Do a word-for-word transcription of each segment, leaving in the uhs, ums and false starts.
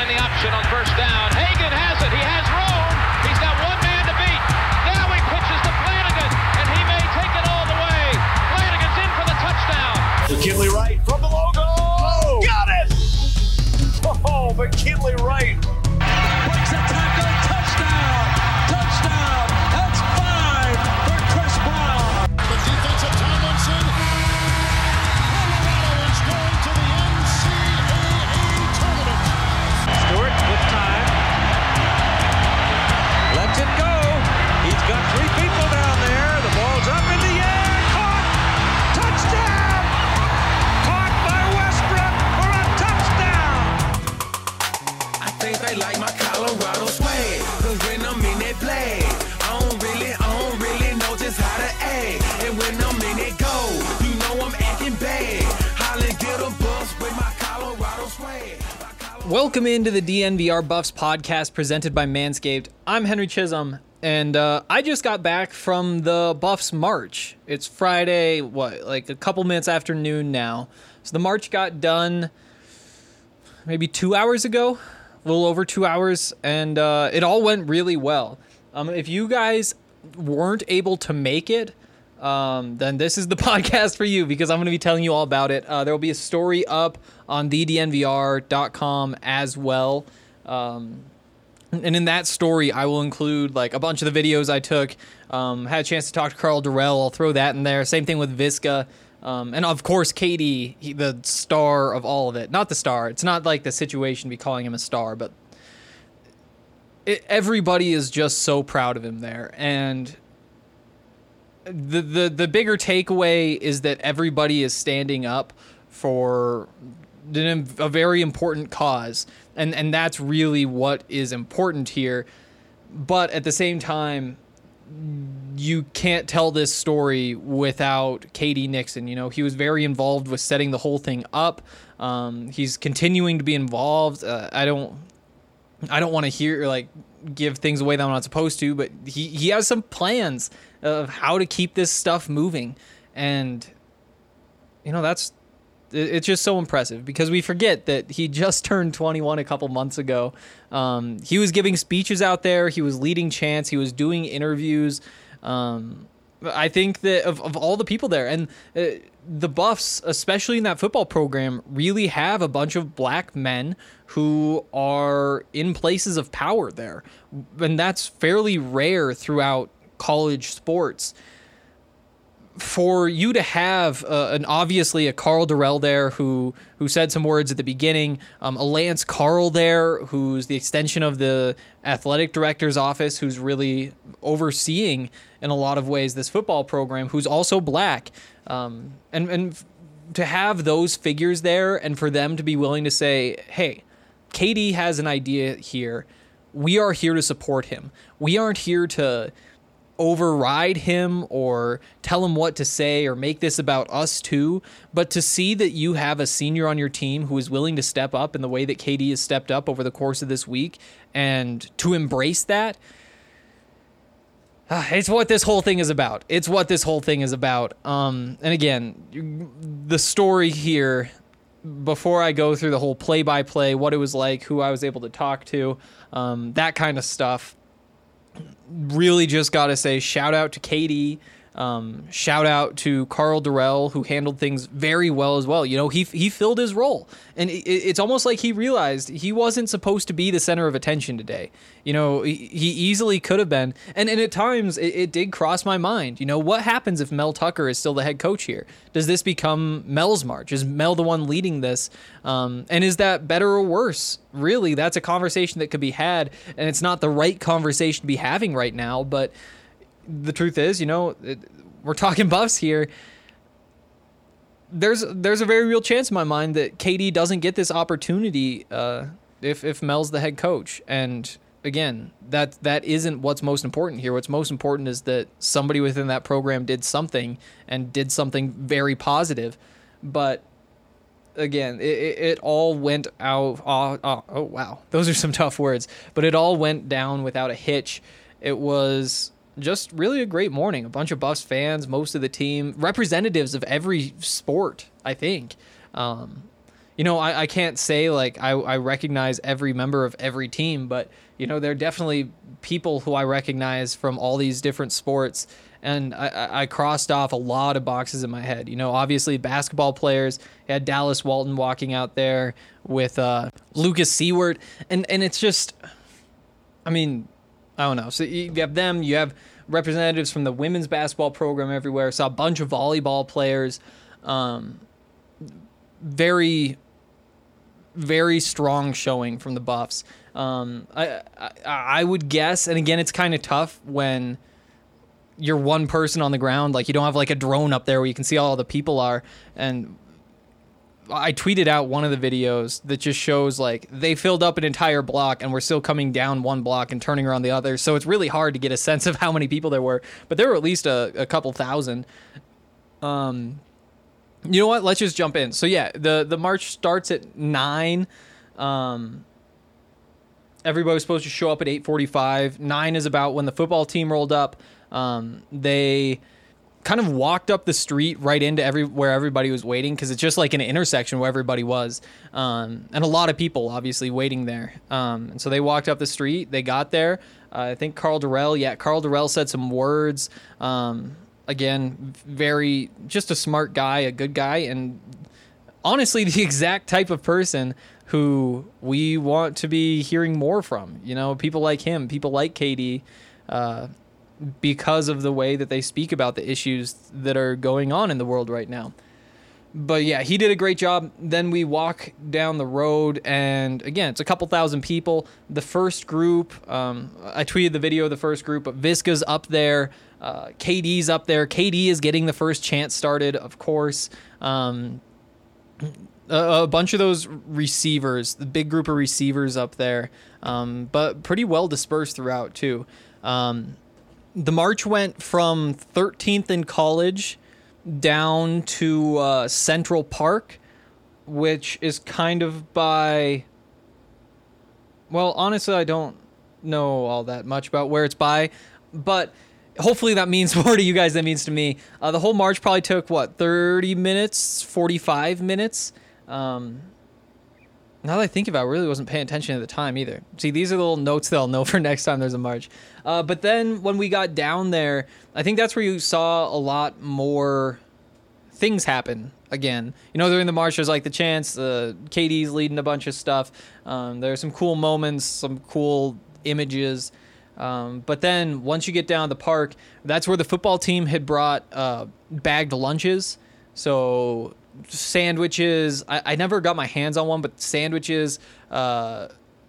in the option on first down. Hagan has it. He has room. He's got one man to beat. Now he pitches to Flanagan, and he may take it all the way. Flanagan's in for the touchdown. McKinley Wright from the logo. Oh, got it! Oh, McKinley Wright. Breaks a tackle. Touchdown. Touchdown. That's five for Chris Brown. The defensive Tomlinson. Colorado is going to the N C double A tournament. Stewart with time. Lets it go. He's got three people down there. The ball's up in the air. Caught. Touchdown. Caught by Westbrook for a touchdown. I think they like my Colorado swag. Cause when I'm in that play, I don't really, I don't really know just how to act. And when I'm in it go, you know I'm acting bad. Holland get a bus with my Colorado swag. Welcome into the D N V R Buffs podcast presented by Manscaped. I'm Henry Chisholm, and uh, I just got back from the Buffs March. It's Friday, what, like a couple minutes after noon now. So the March got done maybe two hours ago, a little over two hours, and uh, it all went really well. Um, if you guys weren't able to make it, um, then this is the podcast for you because I'm going to be telling you all about it. Uh, there will be a story up on the D N V R dot com as well. Um, and in that story, I will include like a bunch of the videos I took. Um, had a chance to talk to Carl Durrell. I'll throw that in there. Same thing with Visca. Um, and of course, K D, he, the star of all of it. Not the star. It's not like the situation to be calling him a star, but it, everybody is just so proud of him there. And the, the, the bigger takeaway is that everybody is standing up for a very important cause. And, and that's really what is important here. But at the same time, you can't tell this story without K D Nixon. You know, he was very involved with setting the whole thing up. Um, he's continuing to be involved. Uh, I don't, I don't want to hear like give things away that I'm not supposed to, but he, he has some plans of how to keep this stuff moving. And, you know, that's, it's just so impressive because we forget that he just turned twenty-one a couple months ago. Um, he was giving speeches out there. He was leading chants. He was doing interviews. Um, I think that of, of all the people there and uh, the Buffs, especially in that football program, really have a bunch of black men who are in places of power there. And that's fairly rare throughout college sports. For you to have uh, an obviously a Carl Durrell there who who said some words at the beginning, um, a Lance Carl there who's the extension of the athletic director's office, who's really overseeing in a lot of ways this football program, who's also black, um, and and to have those figures there and for them to be willing to say, hey, K D has an idea here, we are here to support him. We aren't here to override him or tell him what to say or make this about us too, but to see that you have a senior on your team who is willing to step up in the way that K D has stepped up over the course of this week and to embrace that, uh, it's what this whole thing is about. It's what this whole thing is about. Um, and again, the story here, before I go through the whole play-by-play, what it was like, who I was able to talk to, um, that kind of stuff, really just got to say shout out to K D, um, shout out to Carl Durrell, who handled things very well as well. You know, he he filled his role, and it, it's almost like he realized he wasn't supposed to be the center of attention today. You know, he, he easily could have been, and, and at times it, it did cross my mind. You know, what happens if Mel Tucker is still the head coach here? Does this become Mel's march? Is Mel the one leading this? Um, and is that better or worse? Really, that's a conversation that could be had, and it's not the right conversation to be having right now, but the truth is, you know, it, we're talking Buffs here. There's there's a very real chance in my mind that K D doesn't get this opportunity uh, if if Mel's the head coach. And again, that that isn't what's most important here. What's most important is that somebody within that program did something and did something very positive. But again, it, it all went out. Oh, oh, oh, wow. Those are some tough words. But it all went down without a hitch. It was just really a great morning. A bunch of Buffs fans, most of the team, representatives of every sport, I think. Um, you you know, I, I can't say like I, I recognize every member of every team, but, you know, there are definitely people who I recognize from all these different sports. And I, I crossed off a lot of boxes in my head. You know, obviously basketball players. You had Dallas Walton walking out there with uh, Lucas Seward. And, and it's just, I mean, I don't know. So you have them. You have representatives from the women's basketball program everywhere. Saw a bunch of volleyball players. Um, very, very strong showing from the Buffs. Um, I, I I would guess, and again, it's kind of tough when you're one person on the ground. Like, you don't have like a drone up there where you can see all the people are. And I tweeted out one of the videos that just shows like they filled up an entire block and we're still coming down one block and turning around the other. So it's really hard to get a sense of how many people there were, but there were at least a, a couple thousand. Um, you know what? Let's just jump in. So yeah, the, the march starts at nine. Um, everybody was supposed to show up at eight forty-five. Nine is about when the football team rolled up. Um, they kind of walked up the street right into every where everybody was waiting, because it's just like an intersection where everybody was, um, and a lot of people obviously waiting there. Um, and so they walked up the street. They got there. Uh, I think Carl Durrell. Yeah, Carl Durrell said some words. Um, again, very just a smart guy, a good guy, and honestly, the exact type of person who we want to be hearing more from. You know, people like him, people like K D. Uh, because of the way that they speak about the issues that are going on in the world right now. But yeah, he did a great job. Then we walk down the road, and again, it's a couple thousand people. The first group, um, I tweeted the video of the first group, but Visca's up there, uh, K D's up there. K D is getting the first chant started, of course. Um, a, a bunch of those receivers, the big group of receivers up there, um, but pretty well dispersed throughout too. Um, The march went from thirteenth in College down to uh, Central Park, which is kind of by... Well, honestly, I don't know all that much about where it's by, but hopefully that means more to you guys than it means to me. Uh, the whole march probably took, what, thirty minutes, forty-five minutes? Um, now that I think about it, I really wasn't paying attention at the time either. See, these are the little notes that I'll know for next time there's a march. Uh, but then when we got down there, I think that's where you saw a lot more things happen again. You know, during the march, there's like the chants, uh, K D's leading a bunch of stuff. Um, there are some cool moments, some cool images. Um, but then once you get down the park, that's where the football team had brought uh, bagged lunches. So sandwiches. I, I never got my hands on one, but sandwiches, uh,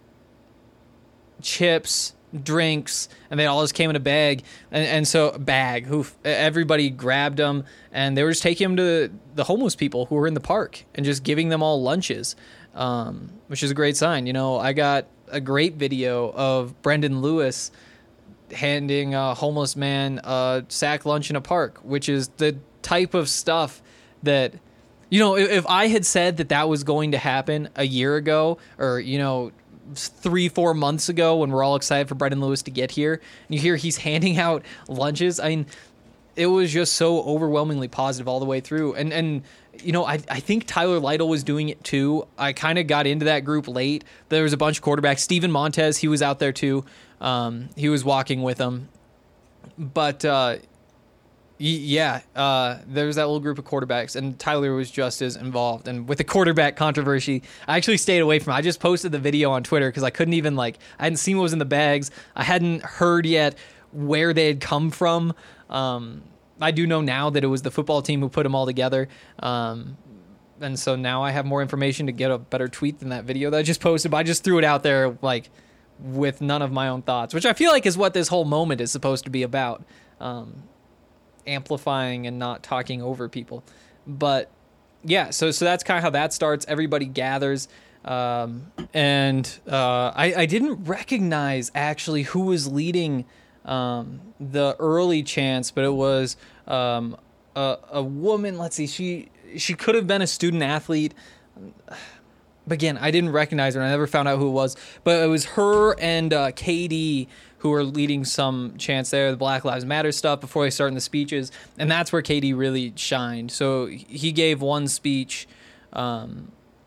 chips, drinks, and they all just came in a bag. And, and so bag, who everybody grabbed them, and they were just taking them to the homeless people who were in the park and just giving them all lunches, um, which is a great sign. You know, I got a great video of Brendan Lewis handing a homeless man a sack lunch in a park, which is the type of stuff that, you know, if, if I had said that that was going to happen a year ago, or, you know, three, four months ago when we're all excited for Brendan Lewis to get here, and you hear he's handing out lunches, I mean, it was just so overwhelmingly positive all the way through. And, and you know, I, I think Tyler Lytle was doing it too. I kind of got into that group late. There was a bunch of quarterbacks. Steven Montez, he was out there too. Um, he was walking with them. But, uh, yeah, uh, there was that little group of quarterbacks, and Tyler was just as involved. And with the quarterback controversy, I actually stayed away from it. I just posted the video on Twitter because I couldn't even, like, I hadn't seen what was in the bags. I hadn't heard yet where they had come from. Um, I do know now that it was the football team who put them all together. Um, and so now I have more information to get a better tweet than that video that I just posted. But I just threw it out there, like, with none of my own thoughts, which I feel like is what this whole moment is supposed to be about. Um, amplifying and not talking over people. But yeah, so so that's kind of how that starts. Everybody gathers, um, and uh, I, I didn't recognize actually who was leading um, the early chants, but it was um, a, a woman. Let's see, she she could have been a student athlete. But again, I didn't recognize her, and I never found out who it was. But it was her and uh, K D who were leading some chants there, the Black Lives Matter stuff, before they started the speeches. And that's where K D really shined. So he gave one speech um,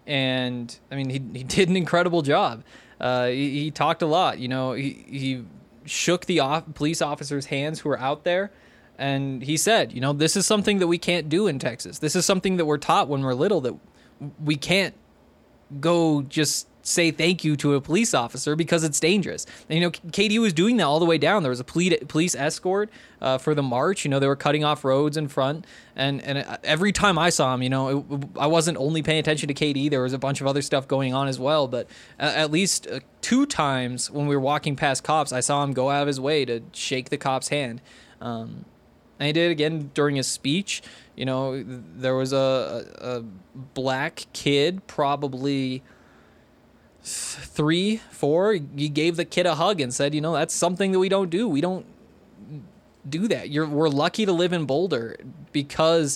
And I mean, he he did an incredible job. Uh, he, he talked a lot. You know, he he shook the off- police officers' hands who were out there, and he said, you know, this is something that we can't do in Texas. This is something that we're taught when we're little, that we can't go just say thank you to a police officer because it's dangerous. And, you know, K D was doing that all the way down. There was a police police escort uh, for the march. You know, they were cutting off roads in front. And and every time I saw him, you know, it, I wasn't only paying attention to K D. There was a bunch of other stuff going on as well. But at, at least uh, two times when we were walking past cops, I saw him go out of his way to shake the cop's hand. Um, and he did it again during his speech. You know, there was a, a, a black kid, probably three, four, he gave the kid a hug and said, you know, that's something that we don't do. We don't do that. You're, we're lucky to live in Boulder because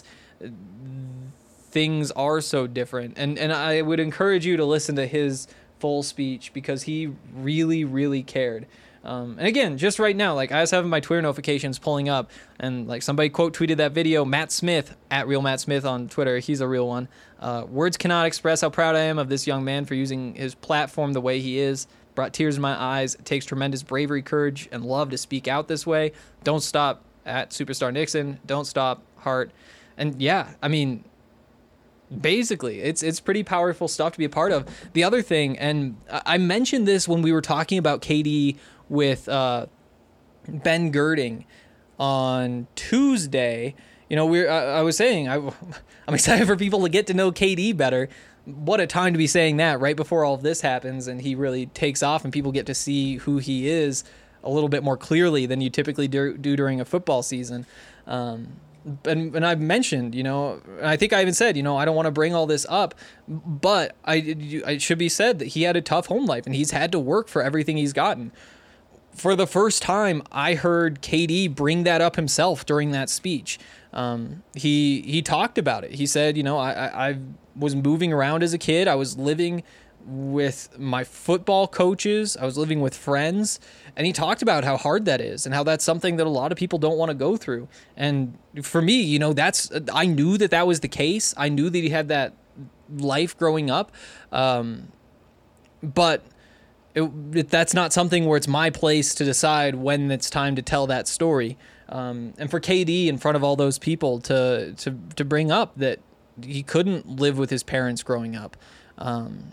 things are so different. And, and I would encourage you to listen to his full speech because he really, really cared. Um, and again, just right now, like I was having my Twitter notifications pulling up, and like somebody quote tweeted that video. Matt Smith at Real Matt Smith on Twitter, he's a real one. Uh, Words cannot express how proud I am of this young man for using his platform the way he is. Brought tears in my eyes. It takes tremendous bravery, courage, and love to speak out this way. Don't stop at Superstar Nixon. Don't stop, Hart. And yeah, I mean, basically, it's it's pretty powerful stuff to be a part of. The other thing, and I mentioned this when we were talking about K D with uh, Ben Girding on Tuesday. You know, we I, I was saying I, I'm excited for people to get to know K D better. What a time to be saying that right before all of this happens and he really takes off and people get to see who he is a little bit more clearly than you typically do, do during a football season. Um, and, and I've mentioned, you know, I think I even said, you know, I don't want to bring all this up, but I, it should be said that he had a tough home life and he's had to work for everything he's gotten. For the first time, I heard K D bring that up himself during that speech. Um, he he talked about it. He said, you know, I, I, I was moving around as a kid. I was living with my football coaches. I was living with friends. And he talked about how hard that is and how that's something that a lot of people don't want to go through. And for me, you know, that's I knew that that was the case. I knew that he had that life growing up. Um, but... It, it, that's not something where it's my place to decide when it's time to tell that story. Um, and for K D in front of all those people to to to bring up that he couldn't live with his parents growing up, um,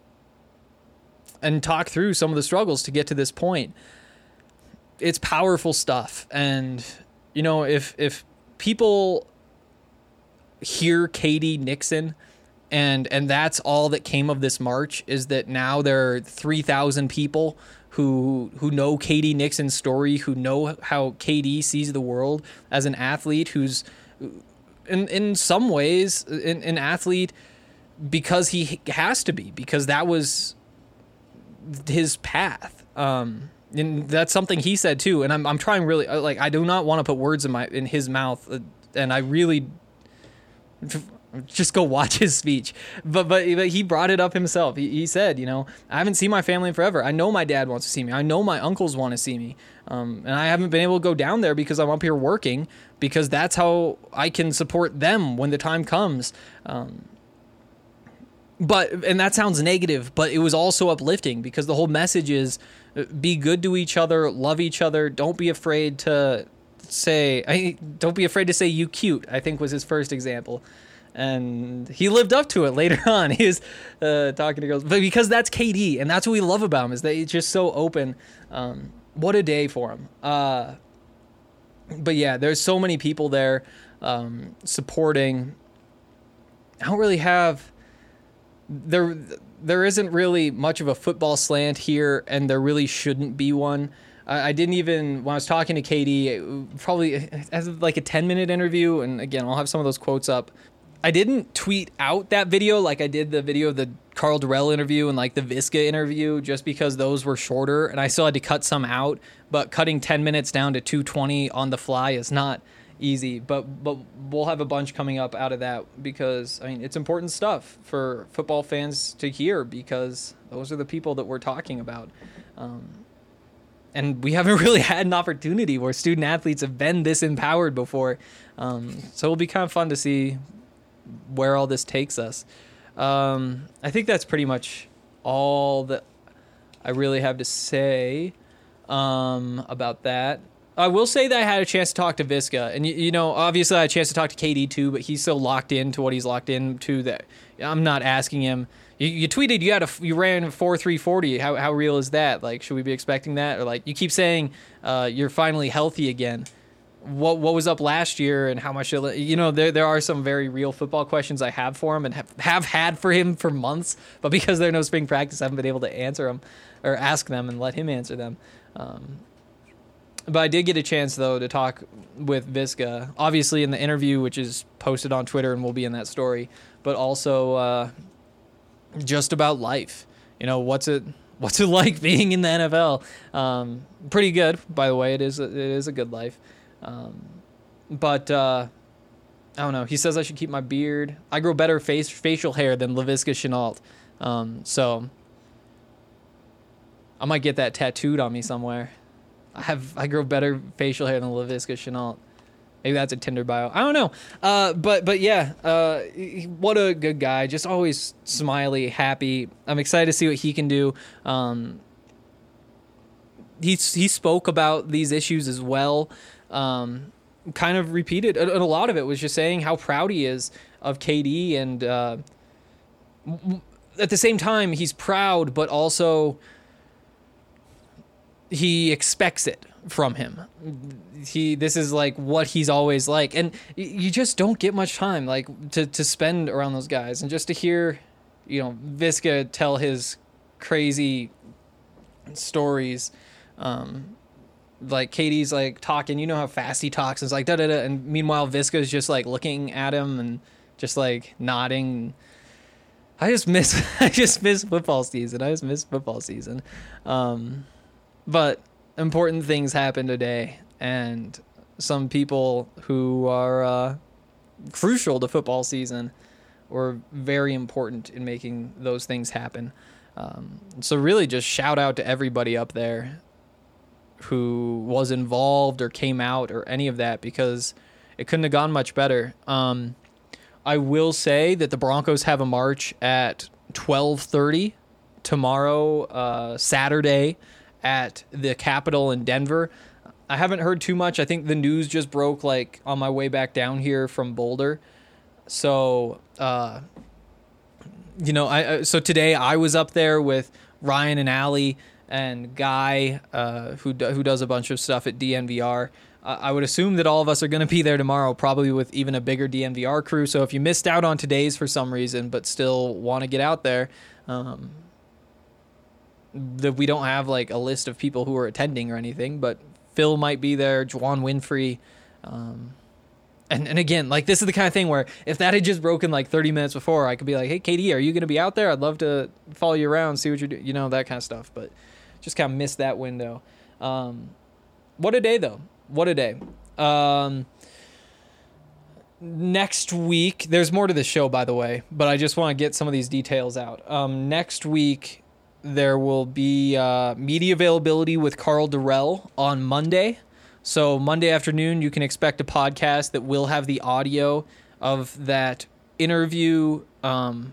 and talk through some of the struggles to get to this point, it's powerful stuff. And you know, if if people hear K D Nixon, And and that's all that came of this march, is that now there are three thousand people who who know K D Nixon's story, who know how K D sees the world as an athlete, who's in in some ways an, an athlete because he has to be, because that was his path. Um, and that's something he said too. And I'm I'm trying really, like, I do not want to put words in my in his mouth, and I really. Just go watch his speech. But, but but he brought it up himself. He, he said, you know, I haven't seen my family in forever. I know my dad wants to see me. I know my uncles want to see me. Um, and I haven't been able to go down there because I'm up here working, because that's how I can support them when the time comes. Um, but and that sounds negative, but it was also uplifting, because the whole message is be good to each other, love each other. Don't be afraid to say, I, don't be afraid to say you cute, I think was his first example. And he lived up to it later on. He was uh, talking to girls, but because that's K D, and that's what we love about him, is that he's just so open. Um, what a day for him. Uh, but yeah, there's so many people there um, supporting. I don't really have there. There isn't really much of a football slant here, and there really shouldn't be one. I didn't even, when I was talking to K D, probably as like a ten minute interview, and again, I'll have some of those quotes up. I didn't tweet out that video like I did the video of the Carl Durrell interview and like the Visca interview, just because those were shorter and I still had to cut some out. But cutting ten minutes down to two twenty on the fly is not easy. But but we'll have a bunch coming up out of that, because I mean, it's important stuff for football fans to hear, because those are the people that we're talking about. Um, and we haven't really had an opportunity where student athletes have been this empowered before. Um, so it'll be kind of fun to see where all this takes us. Um, I think that's pretty much all that I really have to say um, about that. I will say that I had a chance to talk to Visca, and you, you know, obviously I had a chance to talk to K D too, but he's so locked into what he's locked into that I'm not asking him. You, you tweeted you had a you ran four three forty. How how real is that? Like, should we be expecting that? Or like, you keep saying uh, you're finally healthy again. What what was up last year, and how much? You know, there there are some very real football questions I have for him, and have, have had for him for months, but because there's no spring practice, I haven't been able to answer them or ask them and let him answer them. Um, But I did get a chance, though, to talk with Visca, obviously in the interview, which is posted on Twitter and will be in that story, but also uh, just about life. You know, what's it what's it like being in the N F L? Um, pretty good, by the way. It is a, it is a good life. Um, but uh, I don't know. He says I should keep my beard. I grow better face facial hair than Laviska Shenault. Um, so I might get that tattooed on me somewhere. I have I grow better facial hair than Laviska Shenault. Maybe that's a Tinder bio. I don't know. Uh, but but yeah, uh, what a good guy. Just always smiley, happy. I'm excited to see what he can do. Um, he he spoke about these issues as well. Um, kind of repeated, and a lot of it was just saying how proud he is of K D, and uh, at the same time he's proud, but also he expects it from him. He, this is like what he's always like. And you just don't get much time like to, to spend around those guys. And just to hear, you know, Visca tell his crazy stories, um, like K D's like talking, you know how fast he talks. It's like da da da. And meanwhile, Visca's just like looking at him and just like nodding. I just miss, I just miss football season. I just miss football season. Um, But important things happen today, and some people who are uh, crucial to football season were very important in making those things happen. Um, so really just shout out to everybody up there who was involved or came out or any of that, because it couldn't have gone much better. Um, I will say that the Broncos have a march at twelve thirty tomorrow, uh, Saturday, at the Capitol in Denver. I haven't heard too much. I think the news just broke like on my way back down here from Boulder. So, uh, you know, I so today I was up there with Ryan and Allie and Guy, uh, who who does a bunch of stuff at D N V R. Uh, I would assume that all of us are going to be there tomorrow, probably with even a bigger D N V R crew. So if you missed out on today's for some reason, but still want to get out there, um, that we don't have like a list of people who are attending or anything, but Phil might be there, Juwan Winfrey. Um, and, and again, like this is the kind of thing where if that had just broken like thirty minutes before, I could be like, hey, K D, are you going to be out there? I'd love to follow you around, see what you're doing, you know, that kind of stuff. But just kind of missed that window. Um, what a day though. What a day. Um, next week, there's more to the show, by the way, but I just want to get some of these details out. Um, next week, there will be uh, media availability with Carl Durrell on Monday. So Monday afternoon, you can expect a podcast that will have the audio of that interview. Um,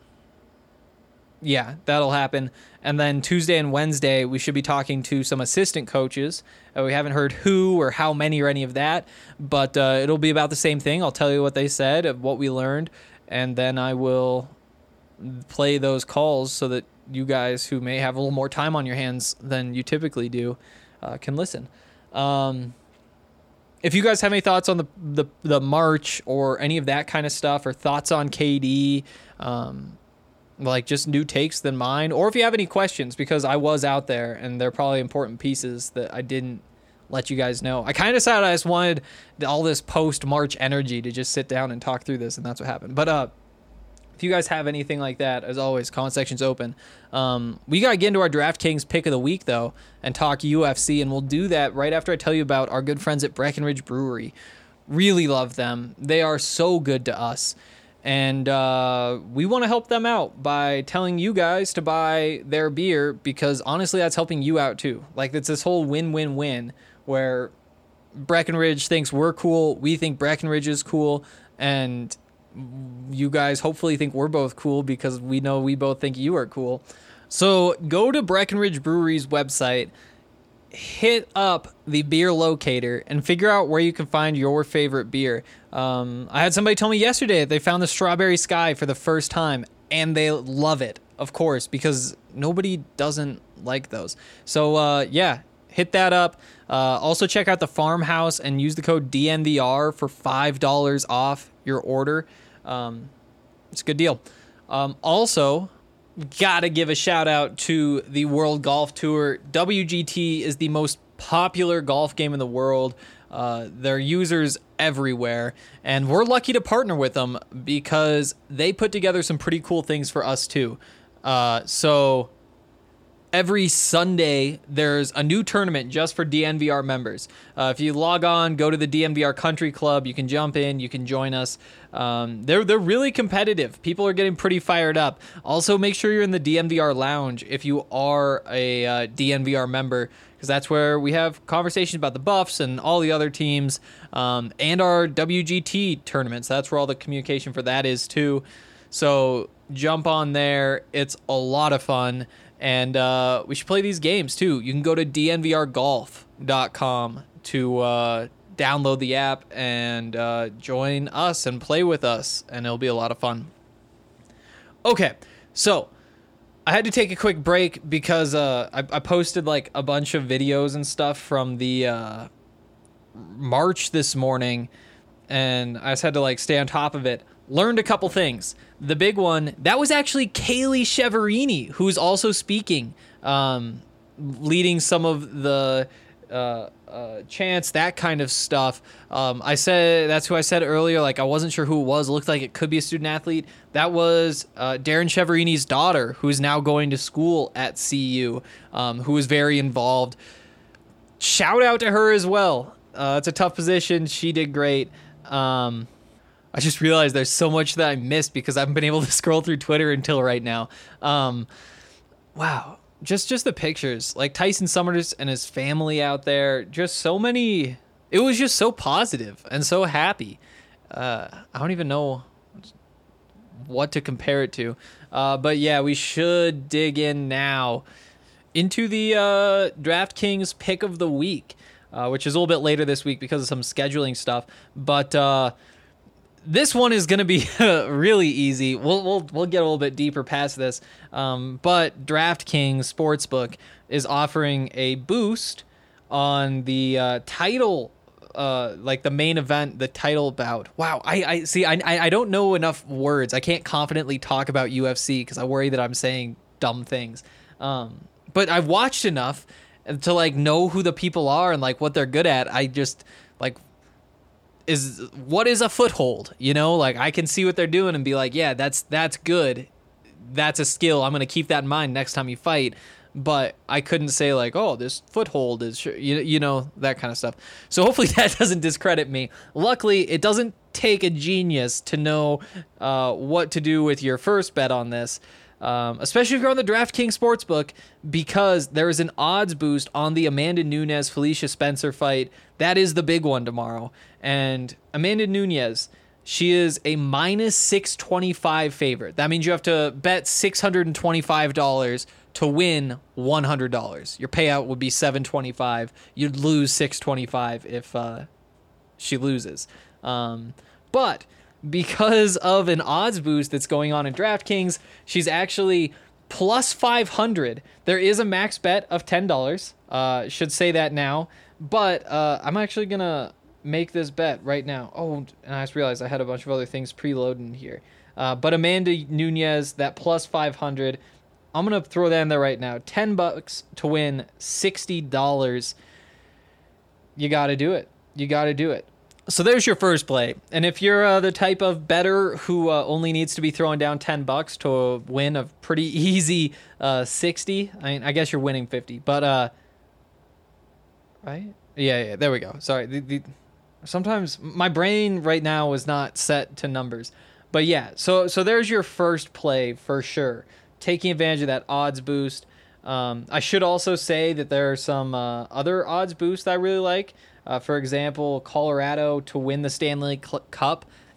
yeah, that'll happen. And then Tuesday and Wednesday, we should be talking to some assistant coaches. Uh, we haven't heard who or how many or any of that, but uh, it'll be about the same thing. I'll tell you what they said, of what we learned, and then I will play those calls so that you guys who may have a little more time on your hands than you typically do uh, can listen. Um, if you guys have any thoughts on the, the the march or any of that kind of stuff, or thoughts on K D, um, like just new takes than mine, or if you have any questions, because I was out there and they're probably important pieces that I didn't let you guys know. I kind of decided I just wanted all this post-March energy to just sit down and talk through this, and that's what happened. But uh, if you guys have anything like that, as always, comment section's open. Um, we got to get into our DraftKings pick of the week, though, and talk U F C, and we'll do that right after I tell you about our good friends at Breckenridge Brewery. Really love them. They are so good to us, and uh, we want to help them out by telling you guys to buy their beer, because honestly, that's helping you out, too. Like, it's this whole win-win-win where Breckenridge thinks we're cool, we think Breckenridge is cool, and you guys hopefully think we're both cool because we know we both think you are cool. So go to Breckenridge Brewery's website, hit up the beer locator, and figure out where you can find your favorite beer. Um, I had somebody tell me yesterday that they found the Strawberry Sky for the first time, and they love it, of course, because nobody doesn't like those. So, uh, yeah, hit that up. Uh, also, check out the Farmhouse and use the code D N V R for five dollars off your order. Um, it's a good deal. Um, also, gotta give a shout out to the World Golf Tour. W G T is the most popular golf game in the world. Uh, their users everywhere, and we're lucky to partner with them because they put together some pretty cool things for us too. Uh, so every Sunday there's a new tournament just for D N V R members. Uh, if you log on, go to the D N V R Country Club, you can jump in, you can join us. Um, they're they're really competitive. People are getting pretty fired up. Also, make sure you're in the D N V R Lounge if you are a uh, D N V R member, because that's where we have conversations about the Buffs and all the other teams, um, and our W G T tournaments. That's where all the communication for that is too. So jump on there. It's a lot of fun. And uh, we should play these games, too. You can go to D N V R golf dot com to uh, download the app and uh, join us and play with us, and it'll be a lot of fun. Okay, so I had to take a quick break because uh, I, I posted like a bunch of videos and stuff from the uh, March this morning, and I just had to like stay on top of it. Learned a couple things. The big one, that was actually Kaylee Cheverini, who's also speaking, um, leading some of the uh, uh, chants, that kind of stuff. Um, I said, that's who I said earlier, like I wasn't sure who it was. It looked like it could be a student athlete. That was uh, Darren Cheverini's daughter, who's now going to school at C U, um, who was very involved. Shout out to her as well. Uh, it's a tough position. She did great. Um, I just realized there's so much that I missed because I haven't been able to scroll through Twitter until right now. Um, wow. Just just the pictures. Like Tyson Summers and his family out there. Just so many. It was just so positive and so happy. Uh, I don't even know what to compare it to. Uh, but yeah, we should dig in now into the uh, DraftKings pick of the week, uh, which is a little bit later this week because of some scheduling stuff. But uh, this one is going to be really easy. We'll we'll we'll get a little bit deeper past this. Um, but DraftKings Sportsbook is offering a boost on the uh, title, uh, like the main event, the title bout. Wow, I, I see. I I don't know enough words. I can't confidently talk about U F C because I worry that I'm saying dumb things. Um, but I've watched enough to like know who the people are and like what they're good at. I just like. Is what is a foothold, you know, like I can see what they're doing and be like, yeah, that's that's good, that's a skill, I'm gonna keep that in mind next time you fight. But I couldn't say like, oh, this foothold is, you, you know, that kind of stuff. So hopefully that doesn't discredit me. Luckily it doesn't take a genius to know uh, what to do with your first bet on this, um, especially if you're on the DraftKings Sportsbook, because there is an odds boost on the Amanda Nunes Felicia Spencer fight. That is the big one tomorrow. And Amanda Nunes, she is a minus six twenty-five favorite. That means you have to bet six hundred twenty-five dollars to win one hundred dollars. Your payout would be seven twenty-five. You'd lose six twenty-five if uh, she loses. Um, but because of an odds boost that's going on in DraftKings, she's actually plus five hundred. There is a max bet of ten dollars. Uh, should say that now. But uh, I'm actually going to make this bet right now. Oh, and I just realized I had a bunch of other things preloaded here. Uh, but Amanda Nunes, that plus five hundred, I'm going to throw that in there right now. ten bucks to win sixty dollars. You got to do it. You got to do it. So there's your first play. And if you're uh, the type of bettor who uh, only needs to be throwing down ten bucks to win a pretty easy uh, sixty, I mean, I guess you're winning fifty, but uh, right? Yeah, yeah, there we go. Sorry. The, the, sometimes my brain right now is not set to numbers. But yeah, so so there's your first play for sure. Taking advantage of that odds boost. Um, I should also say that there are some uh, other odds boosts that I really like. Uh, for example, Colorado to win the Stanley Cup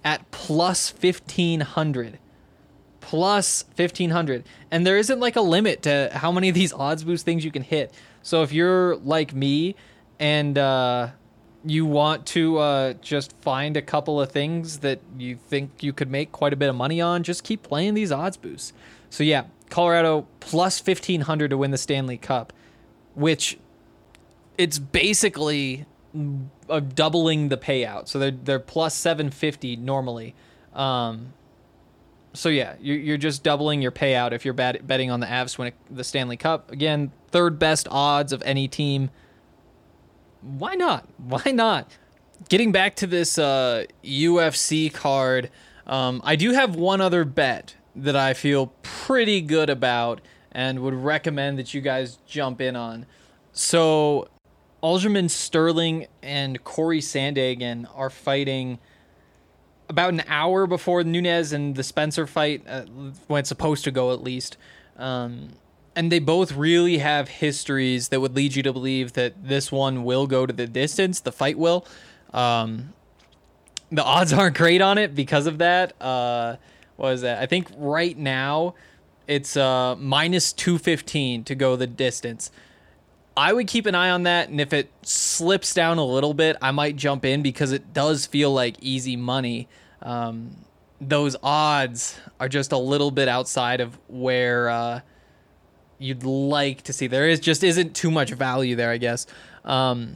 at plus fifteen hundred. Plus fifteen hundred. And there isn't like a limit to how many of these odds boost things you can hit. So if you're like me and uh, you want to uh, just find a couple of things that you think you could make quite a bit of money on, just keep playing these odds boosts. So yeah, Colorado plus fifteen hundred to win the Stanley Cup, which it's basically uh, doubling the payout. So they're, they're plus seven fifty normally. Um, So yeah, you're you're just doubling your payout if you're bet- betting on the Avs to win the Stanley Cup. Again, third best odds of any team. Why not? Why not? Getting back to this uh, U F C card, um, I do have one other bet that I feel pretty good about and would recommend that you guys jump in on. So Aljamain Sterling and Corey Sandhagen are fighting about an hour before Nunes and the Spencer fight, uh, when it's supposed to go at least. Um, and they both really have histories that would lead you to believe that this one will go to the distance, the fight will. Um, the odds aren't great on it because of that. Uh, what is that? I think right now it's uh, minus two fifteen to go the distance. I would keep an eye on that, and if it slips down a little bit, I might jump in because it does feel like easy money. Um, those odds are just a little bit outside of where uh, you'd like to see. There is just isn't too much value there, I guess. Um,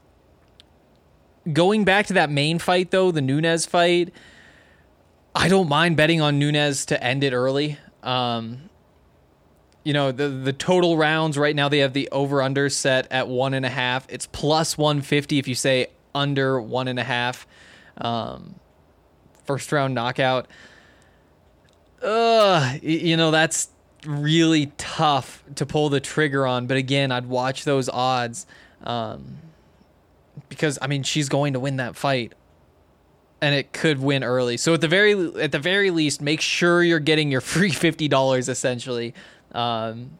going back to that main fight, though, the Nunes fight, I don't mind betting on Nunes to end it early. Um, You know, the the total rounds right now, they have the over-under set at one and a half. It's plus one fifty if you say under one and a half. Um, first round knockout. Ugh, you know, that's really tough to pull the trigger on. But again, I'd watch those odds um, because, I mean, she's going to win that fight. And it could win early. So at the very at the very least, make sure you're getting your free fifty dollars essentially. Um,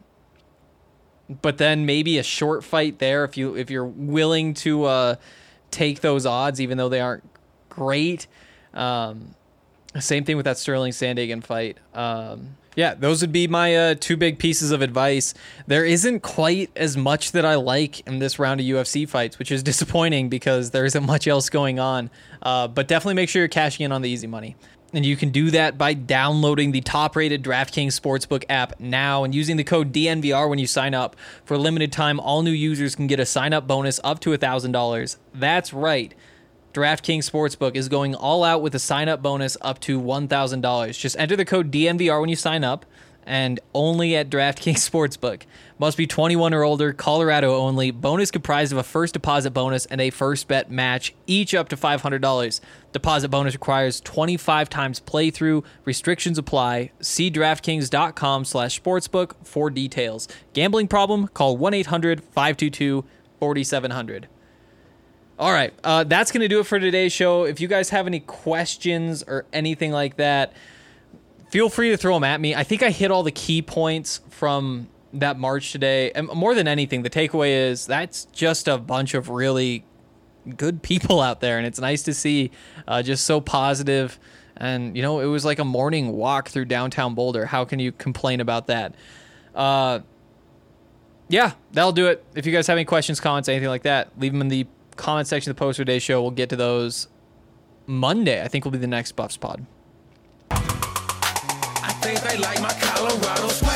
but then maybe a short fight there if you if you're willing to uh, take those odds, even though they aren't great. Um, same thing with that Sterling Sandhagen fight. Um, yeah, those would be my uh, two big pieces of advice. There isn't quite as much that I like in this round of U F C fights, which is disappointing because there isn't much else going on. Uh, but definitely make sure you're cashing in on the easy money. And you can do that by downloading the top-rated DraftKings Sportsbook app now and using the code D N V R when you sign up. For a limited time, all new users can get a sign-up bonus up to one thousand dollars. That's right. DraftKings Sportsbook is going all out with a sign-up bonus up to one thousand dollars. Just enter the code D N V R when you sign up, and only at DraftKings Sportsbook. Must be twenty-one or older, Colorado only. Bonus comprised of a first deposit bonus and a first bet match, each up to five hundred dollars. Deposit bonus requires twenty-five times playthrough. Restrictions apply. See DraftKings.com slash sportsbook for details. Gambling problem? Call one eight hundred five two two four seven zero zero. All right, uh, that's going to do it for today's show. If you guys have any questions or anything like that, feel free to throw them at me. I think I hit all the key points from that March today. And more than anything, the takeaway is that's just a bunch of really good people out there. And it's nice to see uh, just so positive. And, you know, it was like a morning walk through downtown Boulder. How can you complain about that? Uh, yeah, that'll do it. If you guys have any questions, comments, anything like that, leave them in the comment section of the Post for Today's show. We'll get to those Monday. I think will be the next Buffs pod. I think they like my Colorado swag.